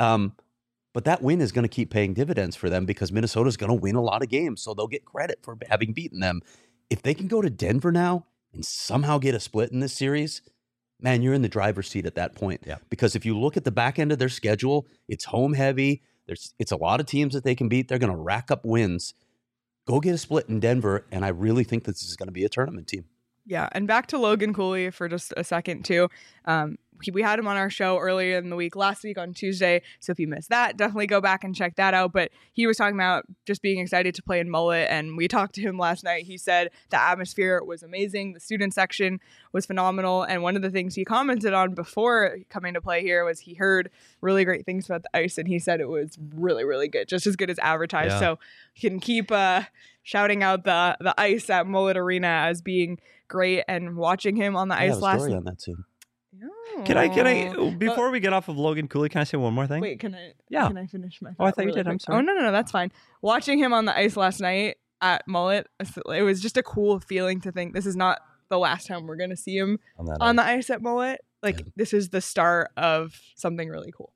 But that win is going to keep paying dividends for them because Minnesota's going to win a lot of games, so they'll get credit for having beaten them. If they can go to Denver now and somehow get a split in this series, man, you're in the driver's seat at that point. Yeah. Because if you look at the back end of their schedule, it's home heavy. It's a lot of teams that they can beat. They're going to rack up wins. Go get a split in Denver, and I really think this is going to be a tournament team. Yeah, and back to Logan Cooley for just a second, too. We had him on our show earlier in the week, last week on Tuesday, so if you missed that, definitely go back and check that out. But he was talking about just being excited to play in Mullet, and we talked to him last night. He said the atmosphere was amazing, the student section was phenomenal, and one of the things he commented on before coming to play here was he heard really great things about the ice, and he said it was really, really good, just as good as advertised. Yeah. So you can keep shouting out the ice at Mullet Arena as being great, and watching him on the ice last story on that too. Can I before we get off of Logan Cooley, can I say one more thing? Wait, can I finish my thought? Oh, I thought you did. Quick? I'm sorry. Oh, no, that's fine. Watching him on the ice last night at Mullet, it was just a cool feeling to think this is not the last time we're going to see him on the ice at Mullet. This is the start of something really cool.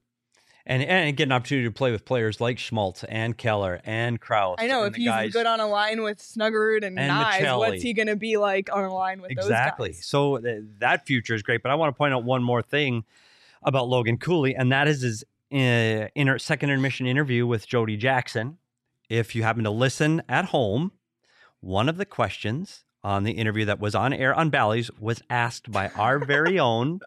And get an opportunity to play with players like Schmaltz and Keller and Krause. I know, if he's good on a line with Snuggerud and Nyes, Michelli. What's he going to be like on a line with those guys? Exactly. So that future is great. But I want to point out one more thing about Logan Cooley, and that is his second intermission interview with Jody Jackson. If you happen to listen at home, one of the questions on the interview that was on air on Bally's was asked by our very own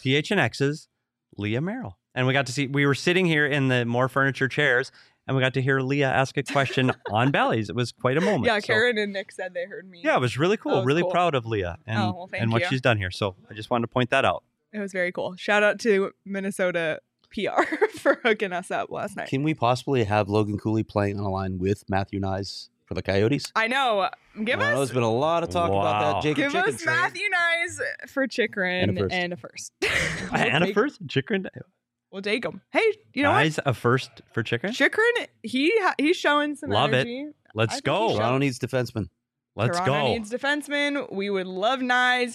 PHNX's Leah Merrill. And we were sitting here in the more furniture chairs, and we got to hear Leah ask a question on Bally's. It was quite a moment. Yeah, Karen and Nick said they heard me. Yeah, it was really cool. Was really cool. Proud of Leah and what she's done here. So I just wanted to point that out. It was very cool. Shout out to Minnesota PR for hooking us up last night. Can we possibly have Logan Cooley playing on a line with Matthew Nyes for the Coyotes? I know. There's been a lot of talk about that. Jacob Give Chicken us trade. Matthew Nyes for Chikrin and a first. And a first? Chikrin? We'll take him. Hey, you know what? A first for Chikrin? Chikrin, he's showing some energy. It. Let's go. Toronto needs defensemen. Toronto needs defensemen. We would love Nyes.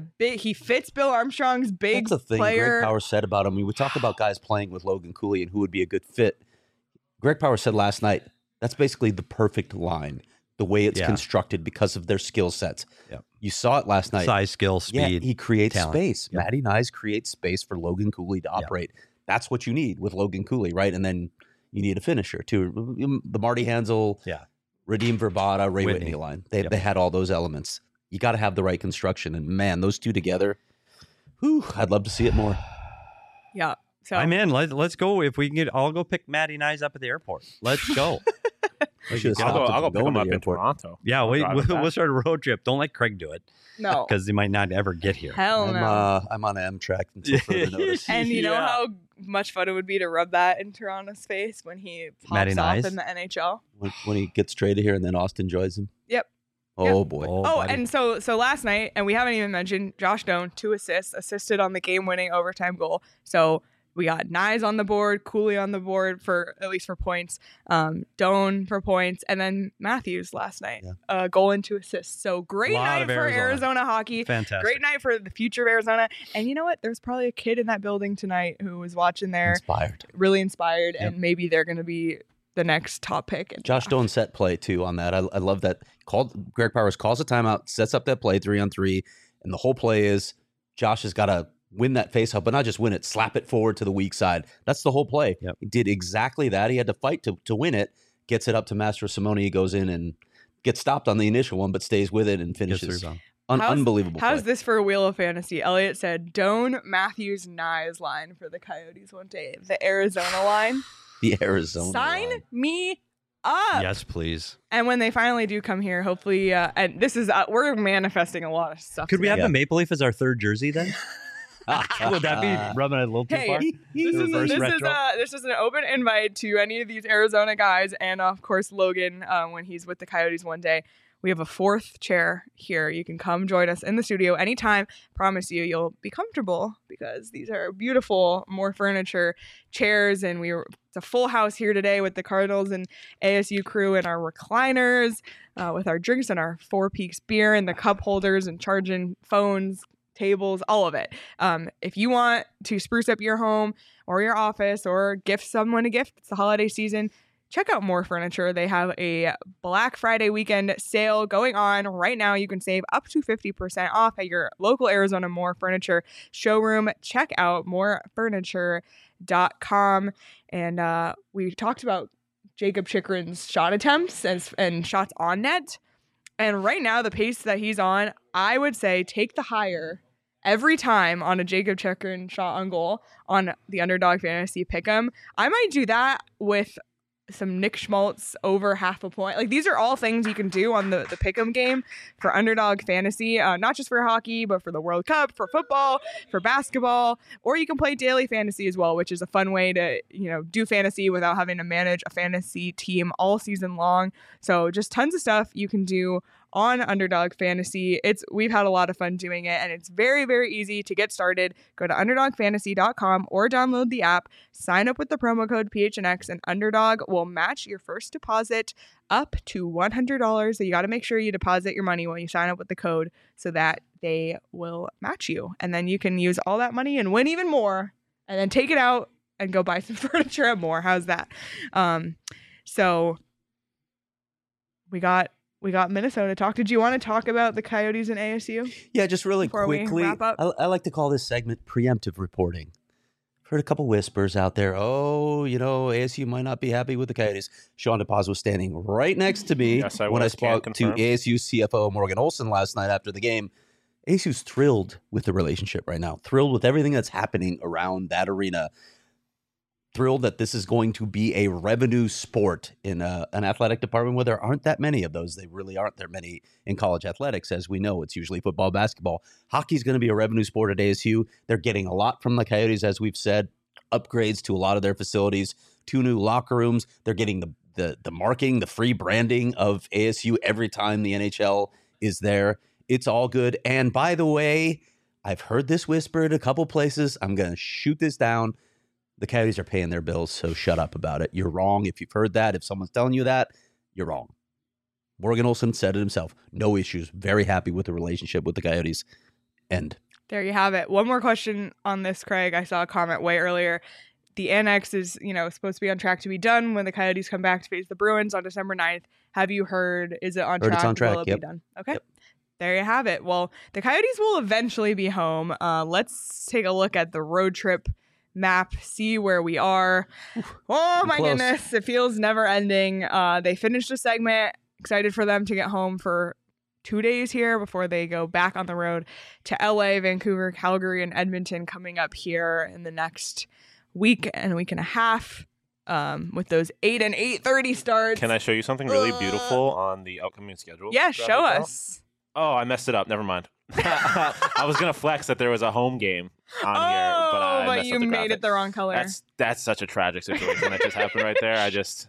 He fits Bill Armstrong's big That's the thing player. Greg Power said about him. We talked about guys playing with Logan Cooley and who would be a good fit. Greg Power said last night, that's basically the perfect line, the way it's constructed because of their skill sets. Yep. You saw it last night. Size, skill, speed. He creates talent. space. Yep. Matty Nyes creates space for Logan Cooley to operate. Yep. That's what you need with Logan Cooley, right? And then you need a finisher too. The Marty Hansel, Radim Verbata, Ray Whitney line. They had all those elements. You got to have the right construction. And man, those two together, I'd love to see it more. Yeah. So I'm in. Let's go. If we can I'll go pick Matty Nyes up at the airport. Let's go. I'll go pick him up in Toronto. Yeah, we'll start a road trip. Don't let Craig do it. No. Because he might not ever get here. Hell no. I'm on Amtrak until further notice. And you know how much fun it would be to rub that in Toronto's face when he pops off in the NHL? When he gets traded here and then Austin joins him? Yep. Oh, boy. And so last night, and we haven't even mentioned Josh Doan, 2 assists, assisted on the game-winning overtime goal. So We got Nyes on the board, Cooley on the board for at least for points, Doan for points, and then Matthews last night, goal and 2 assists. So great night for Arizona hockey. Fantastic. Great night for the future of Arizona. And you know what? There's probably a kid in that building tonight who was watching there, really inspired, and maybe they're going to be the next top pick. Josh Doan set play too on that. I love that. Greg Powers calls a timeout, sets up that play 3-on-3, and the whole play is Josh has got to win that faceoff, but not just win it, slap it forward to the weak side. That's the whole play. He did exactly that. He had to fight to win it, gets it up to Master Simone. He goes in and gets stopped on the initial one, but stays with it and finishes. Unbelievable. How's play. this for a Wheel of Fantasy? Elliot said Doan, Matthews, Nyes line for the Coyotes one day. The Arizona line. The Arizona Sign line. me up. Yes, please. And when they finally do come here, hopefully, and this is, we're manifesting a lot of stuff. Could we have the Maple Leaf as our third jersey then? Would that be rubbing it a little too far? This is an open invite to any of these Arizona guys, and of course Logan when he's with the Coyotes one day. We have a 4th chair here. You can come join us in the studio anytime. Promise you, you'll be comfortable because these are beautiful, more furniture chairs, and it's a full house here today with the Cardinals and ASU crew and our recliners, with our drinks and our Four Peaks beer and the cup holders and charging phones, tables, all of it. If you want to spruce up your home or your office or gift someone a gift, it's the holiday season, check out More Furniture. They have a Black Friday weekend sale going on right now. You can save up to 50% off at your local Arizona More Furniture showroom. Check out morefurniture.com. And we talked about Jacob Chikrin's shot attempts and shots on net. And right now, the pace that he's on, I would say take the higher every time on a Jacob Chikrin shot on goal on the Underdog Fantasy Pick'em. I might do that with some Nick Schmaltz over half a point. Like, these are all things you can do on the Pick'em game for Underdog Fantasy, not just for hockey, but for the World Cup, for football, for basketball, or you can play daily fantasy as well, which is a fun way to, do fantasy without having to manage a fantasy team all season long. So just tons of stuff you can do on Underdog Fantasy. We've had a lot of fun doing it, and it's very, very easy to get started. Go to underdogfantasy.com or download the app, sign up with the promo code PHNX, and Underdog will match your first deposit up to $100. So you got to make sure you deposit your money when you sign up with the code so that they will match you. And then you can use all that money and win even more, and then take it out and go buy some furniture at More. How's that? So we got Minnesota talk. Did you want to talk about the Coyotes and ASU? Yeah, just really quickly. We wrap up? I like to call this segment preemptive reporting. I've heard a couple whispers out there. Oh, ASU might not be happy with the Coyotes. Sean DePaz was standing right next to me when I spoke to ASU CFO Morgan Olson last night after the game. ASU's thrilled with the relationship right now. Thrilled with everything that's happening around that arena. Thrilled that this is going to be a revenue sport in an athletic department where there aren't that many of those. They really aren't there many in college athletics. As we know, it's usually football, basketball. Hockey's going to be a revenue sport at ASU. They're getting a lot from the Coyotes, as we've said, upgrades to a lot of their facilities, 2 new locker rooms. They're getting the marking, the free branding of ASU every time the NHL is there. It's all good. And by the way, I've heard this whispered a couple places. I'm going to shoot this down. The Coyotes are paying their bills, so shut up about it. You're wrong if you've heard that. If someone's telling you that, you're wrong. Morgan Olson said it himself. No issues. Very happy with the relationship with the Coyotes. End. There you have it. One more question on this, Craig. I saw a comment way earlier. The annex is, supposed to be on track to be done when the Coyotes come back to face the Bruins on December 9th. Have you heard? Is it on track? It's on track. Will it be done? Okay. Yep. There you have it. Well, the Coyotes will eventually be home. Let's take a look at the road trip map, see where we are. Oh my goodness, it feels never ending. They finished a segment. Excited for them to get home for 2 days here before they go back on the road to LA, Vancouver, Calgary, and Edmonton coming up here in the next week and a half, with those 8 and 8:30 starts. Can I show you something really beautiful on the upcoming schedule? Yeah, show us. Oh, I messed it up. Never mind. I was gonna flex that there was a home game on here, but I messed you up the made graphic. it the wrong color. That's such a tragic situation that just happened right there. that's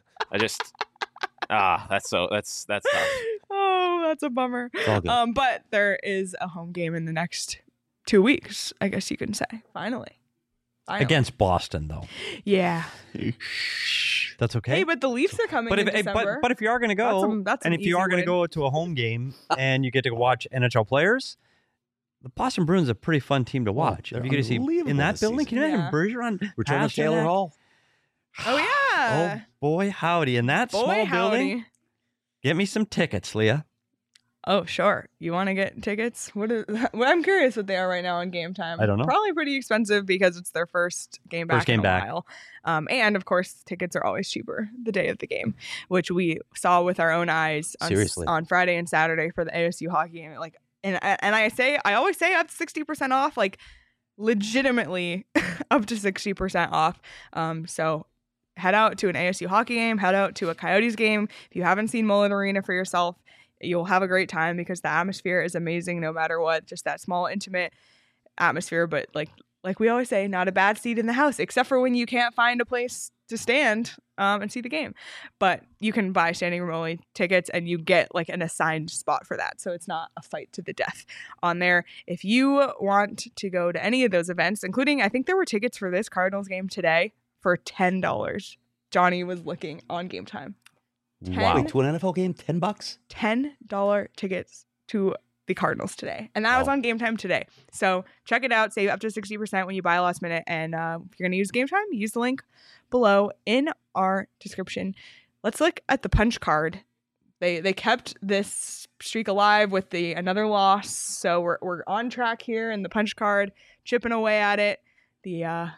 tough. Oh, that's a bummer. It's all good. But there is a home game in the next 2 weeks, I guess you can say. Finally. Finally. Against Boston, though. Yeah. That's okay. Hey, but the Leafs are coming in December. But if you are going to go, that's and an if you are easy going to win. go to a home game and you get to watch NHL players, the Boston Bruins are a pretty fun team to watch. they're If you get to see unbelievable in that this building, season. can you imagine Yeah. Bergeron, Return of Taylor Pasternak? Hall. Oh yeah. Oh boy, howdy! In that Boy, small building, howdy. get me some tickets, Leah. Oh, sure. You want to get tickets? Well, I'm curious what they are right now on Game Time. I don't know. Probably pretty expensive because it's their first game back in a while. And of course, tickets are always cheaper the day of the game, which we saw with our own eyes Seriously. on Friday and Saturday for the ASU hockey game. Like, and I always say up to 60% off. Like, legitimately up to 60% off. So head out to an ASU hockey game. Head out to a Coyotes game. If you haven't seen Mullet Arena for yourself, you'll have a great time because the atmosphere is amazing no matter what. Just that small, intimate atmosphere. But like we always say, not a bad seat in the house, except for when you can't find a place to stand and see the game. But you can buy standing room only tickets and you get like an assigned spot for that. So it's not a fight to the death on there. If you want to go to any of those events, including, I think there were tickets for this Cardinals game today for $10. Johnny was looking on Game Time. Wow. Wait, to an NFL game, $10? $10 tickets to the Cardinals today. And that was Wow. on Game Time today. So check it out. Save up to 60% when you buy last minute. And if you're going to use Game Time, use the link below in our description. Let's look at the punch card. They kept this streak alive with another loss. So we're on track here in the punch card, chipping away at it. The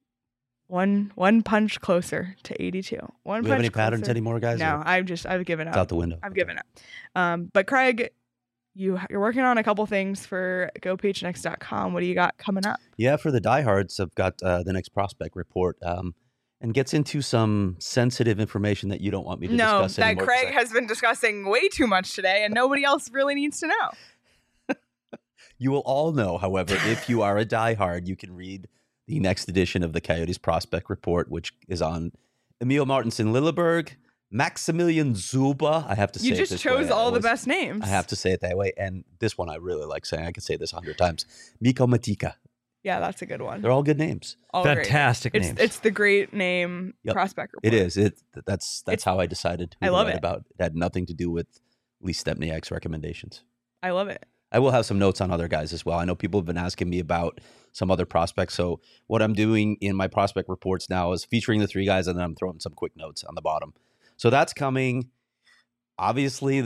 one punch closer to 82. Do we have any patterns closer. anymore, guys? No, or I've given up. It's out the window. I've given up. But Craig, you're working on a couple things for GoPHNX.com. What do you got coming up? Yeah, for the diehards, I've got the next prospect report and gets into some sensitive information that you don't want me to discuss that anymore. 'cause Craig has been discussing way too much today, and nobody else really needs to know. You will all know, however, if you are a diehard, you can read the next edition of the Coyotes Prospect Report, which is on Emil Martinson Lilleberg, Maximilian Zuba. I have to say You it just this chose way. all the best names. I have to say it that way. And this one I really like saying. I could say this 100 times. Mikko Matika. Yeah, that's a good one. They're all good names. All great. Fantastic It's names. it's the great name Yep. prospect report. It is. That's It's- how I decided who I to love write it. about. It had nothing to do with Lee Stepniak's recommendations. I love it. I will have some notes on other guys as well. I know people have been asking me about some other prospects. So what I'm doing in my prospect reports now is featuring the three guys, and then I'm throwing some quick notes on the bottom. So that's coming. Obviously,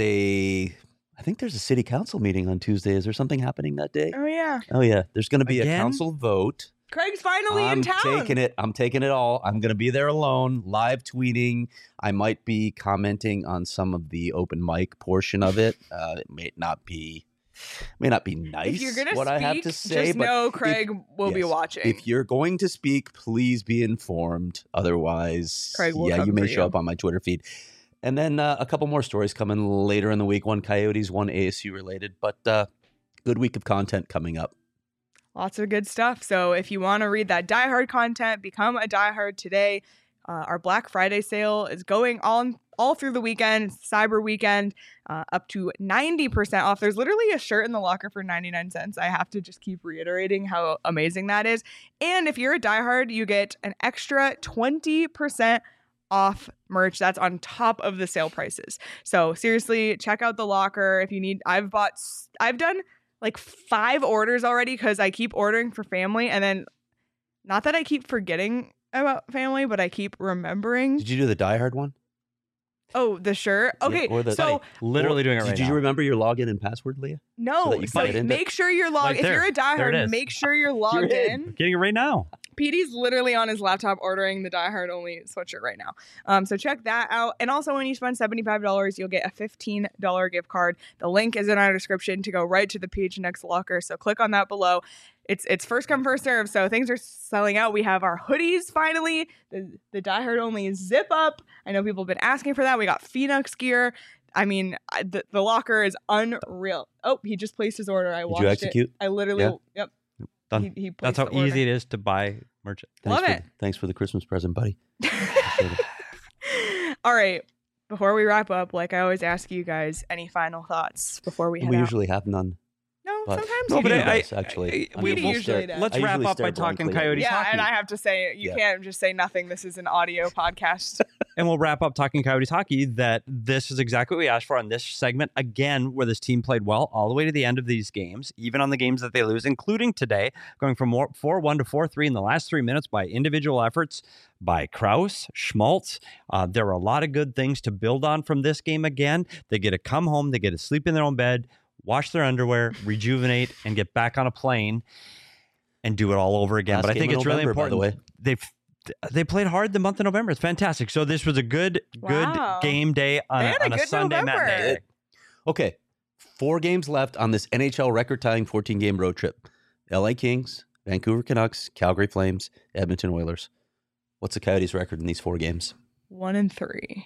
I think there's a city council meeting on Tuesday. Is there something happening that day? Oh yeah, Oh, yeah. There's going to be Again? a council vote. Craig's finally I'm in town. taking it. I'm taking it all. I'm going to be there alone, live tweeting. I might be commenting on some of the open mic portion of it. It may not be nice. If you're gonna what speak, I have to say, just but know Craig will be yes, watching. if you're going to speak, please be informed. Otherwise, Craig will yeah, come you may for show you. up on my Twitter feed. And then a couple more stories coming later in the week. One Coyotes, one ASU related, but good week of content coming up. Lots of good stuff. So if you want to read that Die Hard content, become a Die Hard today. Our Black Friday sale is going on all through the weekend, Cyber weekend, up to 90% off. There's literally a shirt in the locker for 99 cents. I have to just keep reiterating how amazing that is. And if you're a Die Hard, you get an extra 20% off merch. That's on top of the sale prices. So seriously, check out the locker if you need. I've done like 5 orders already because I keep ordering for family, and then not that I keep forgetting about family, but I keep remembering. Did you do the Die Hard one? Oh, the shirt. Okay, or the- so Literally doing it right Did now. you remember your login and password, Leah? no, that you so can get into- make sure you're logged. Right If there. you're a There it diehard, is. make sure you're logged You're in. in. Getting it right now. PD's literally on his laptop ordering the Die Hard only sweatshirt right now. So check that out. And also, when you spend $75, you'll get a $15 gift card. The link is in our description to go right to the PHNX locker. So click on that below. It's first come, first serve. So things are selling out. We have our hoodies finally. The Die Hard only zip up. I know people have been asking for that. We got Phoenix gear. I mean, the locker is unreal. Oh, he just placed his order. I Did watched you execute? it. I literally, Yeah. yep. Done. He That's placed how the order. easy it is to buy merch. Love it. Thanks for the Christmas present, buddy. All right. Before we wrap up, like I always ask you guys, any final thoughts before we head We out? usually have none. No, But- sometimes No, you but do. I- actually. we Petey will usually does. let's I wrap usually up by stare talking blankly at Coyotes you. Yeah, hockey. and I have to say, you Yeah. can't just say nothing. This is an audio podcast. And we'll wrap up talking Coyotes hockey that this is exactly what we asked for on this segment. Again, where this team played well all the way to the end of these games, even on the games that they lose, including today, going from 4-1 to 4-3 in the last 3 minutes by individual efforts by Krause, Schmaltz. There were a lot of good things to build on from this game again. They get to come home, they get to sleep in their own bed, wash their underwear, rejuvenate, and get back on a plane and do it all over again. Last But I game think in it's really November, by the important. They played hard the month of November. It's fantastic. So this was a good Wow. game day on, They had a on a good Sunday November. matinee. Okay, 4 games left on this NHL record-tying 14-game road trip. LA Kings, Vancouver Canucks, Calgary Flames, Edmonton Oilers. What's the Coyotes' record in these 4 games? 1-3.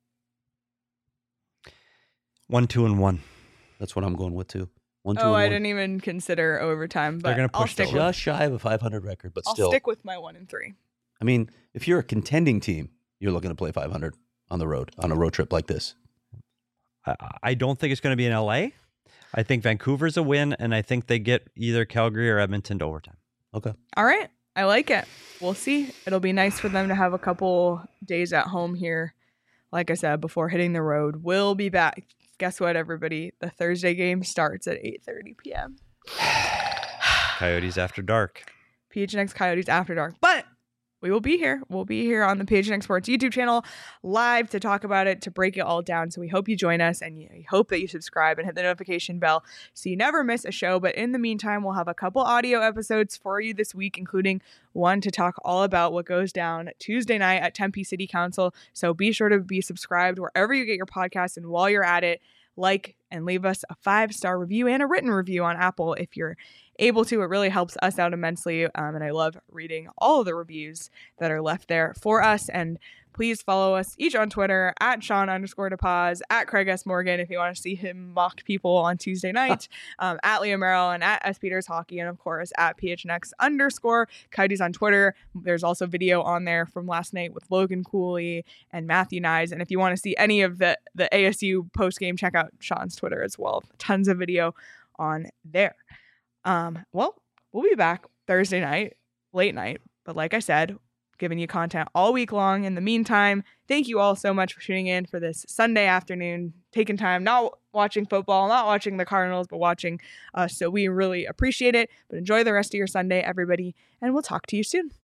1-2-1. That's what I'm going with too. 1-2-1. Oh, I didn't even consider overtime, They're but gonna I'll push stick the with Just shy of a 500 record, but I'll still. stick with my 1-3. I mean, if you're a contending team, you're looking to play 500 on the road, on a road trip like this. I don't think it's going to be in LA. I think Vancouver's a win, and I think they get either Calgary or Edmonton to overtime. Okay. All right. I like it. We'll see. It'll be nice for them to have a couple days at home here. Like I said, before hitting the road. We'll be back. Guess what, everybody? The Thursday game starts at 8:30 p.m. Coyotes after dark. PHNX Coyotes After Dark. But we will be here. We'll be here on the PHNX Sports YouTube channel live to talk about it, to break it all down. So we hope you join us, and we hope that you subscribe and hit the notification bell so you never miss a show. But in the meantime, we'll have a couple audio episodes for you this week, including one to talk all about what goes down Tuesday night at Tempe City Council. So be sure to be subscribed wherever you get your podcasts. And while you're at it, like and leave us a 5-star review and a written review on Apple if you're able to. It really helps us out immensely. And I love reading all of the reviews that are left there for us. And please follow us each on Twitter at Sean_DePaz, at Craig S. Morgan if you want to see him mock people on Tuesday night, at Leo Merrill, and at S. Peters Hockey, and of course at PHNX_ Coyotes on Twitter. There's also video on there from last night with Logan Cooley and Matthew Nyes. And if you want to see any of the ASU post game, check out Sean's Twitter as well. Tons of video on there. Well, we'll be back Thursday night, late night. But like I said, giving you content all week long. In the meantime, thank you all so much for tuning in for this Sunday afternoon, taking time, not watching football, not watching the Cardinals, but watching us. So we really appreciate it. But enjoy the rest of your Sunday, everybody, and we'll talk to you soon.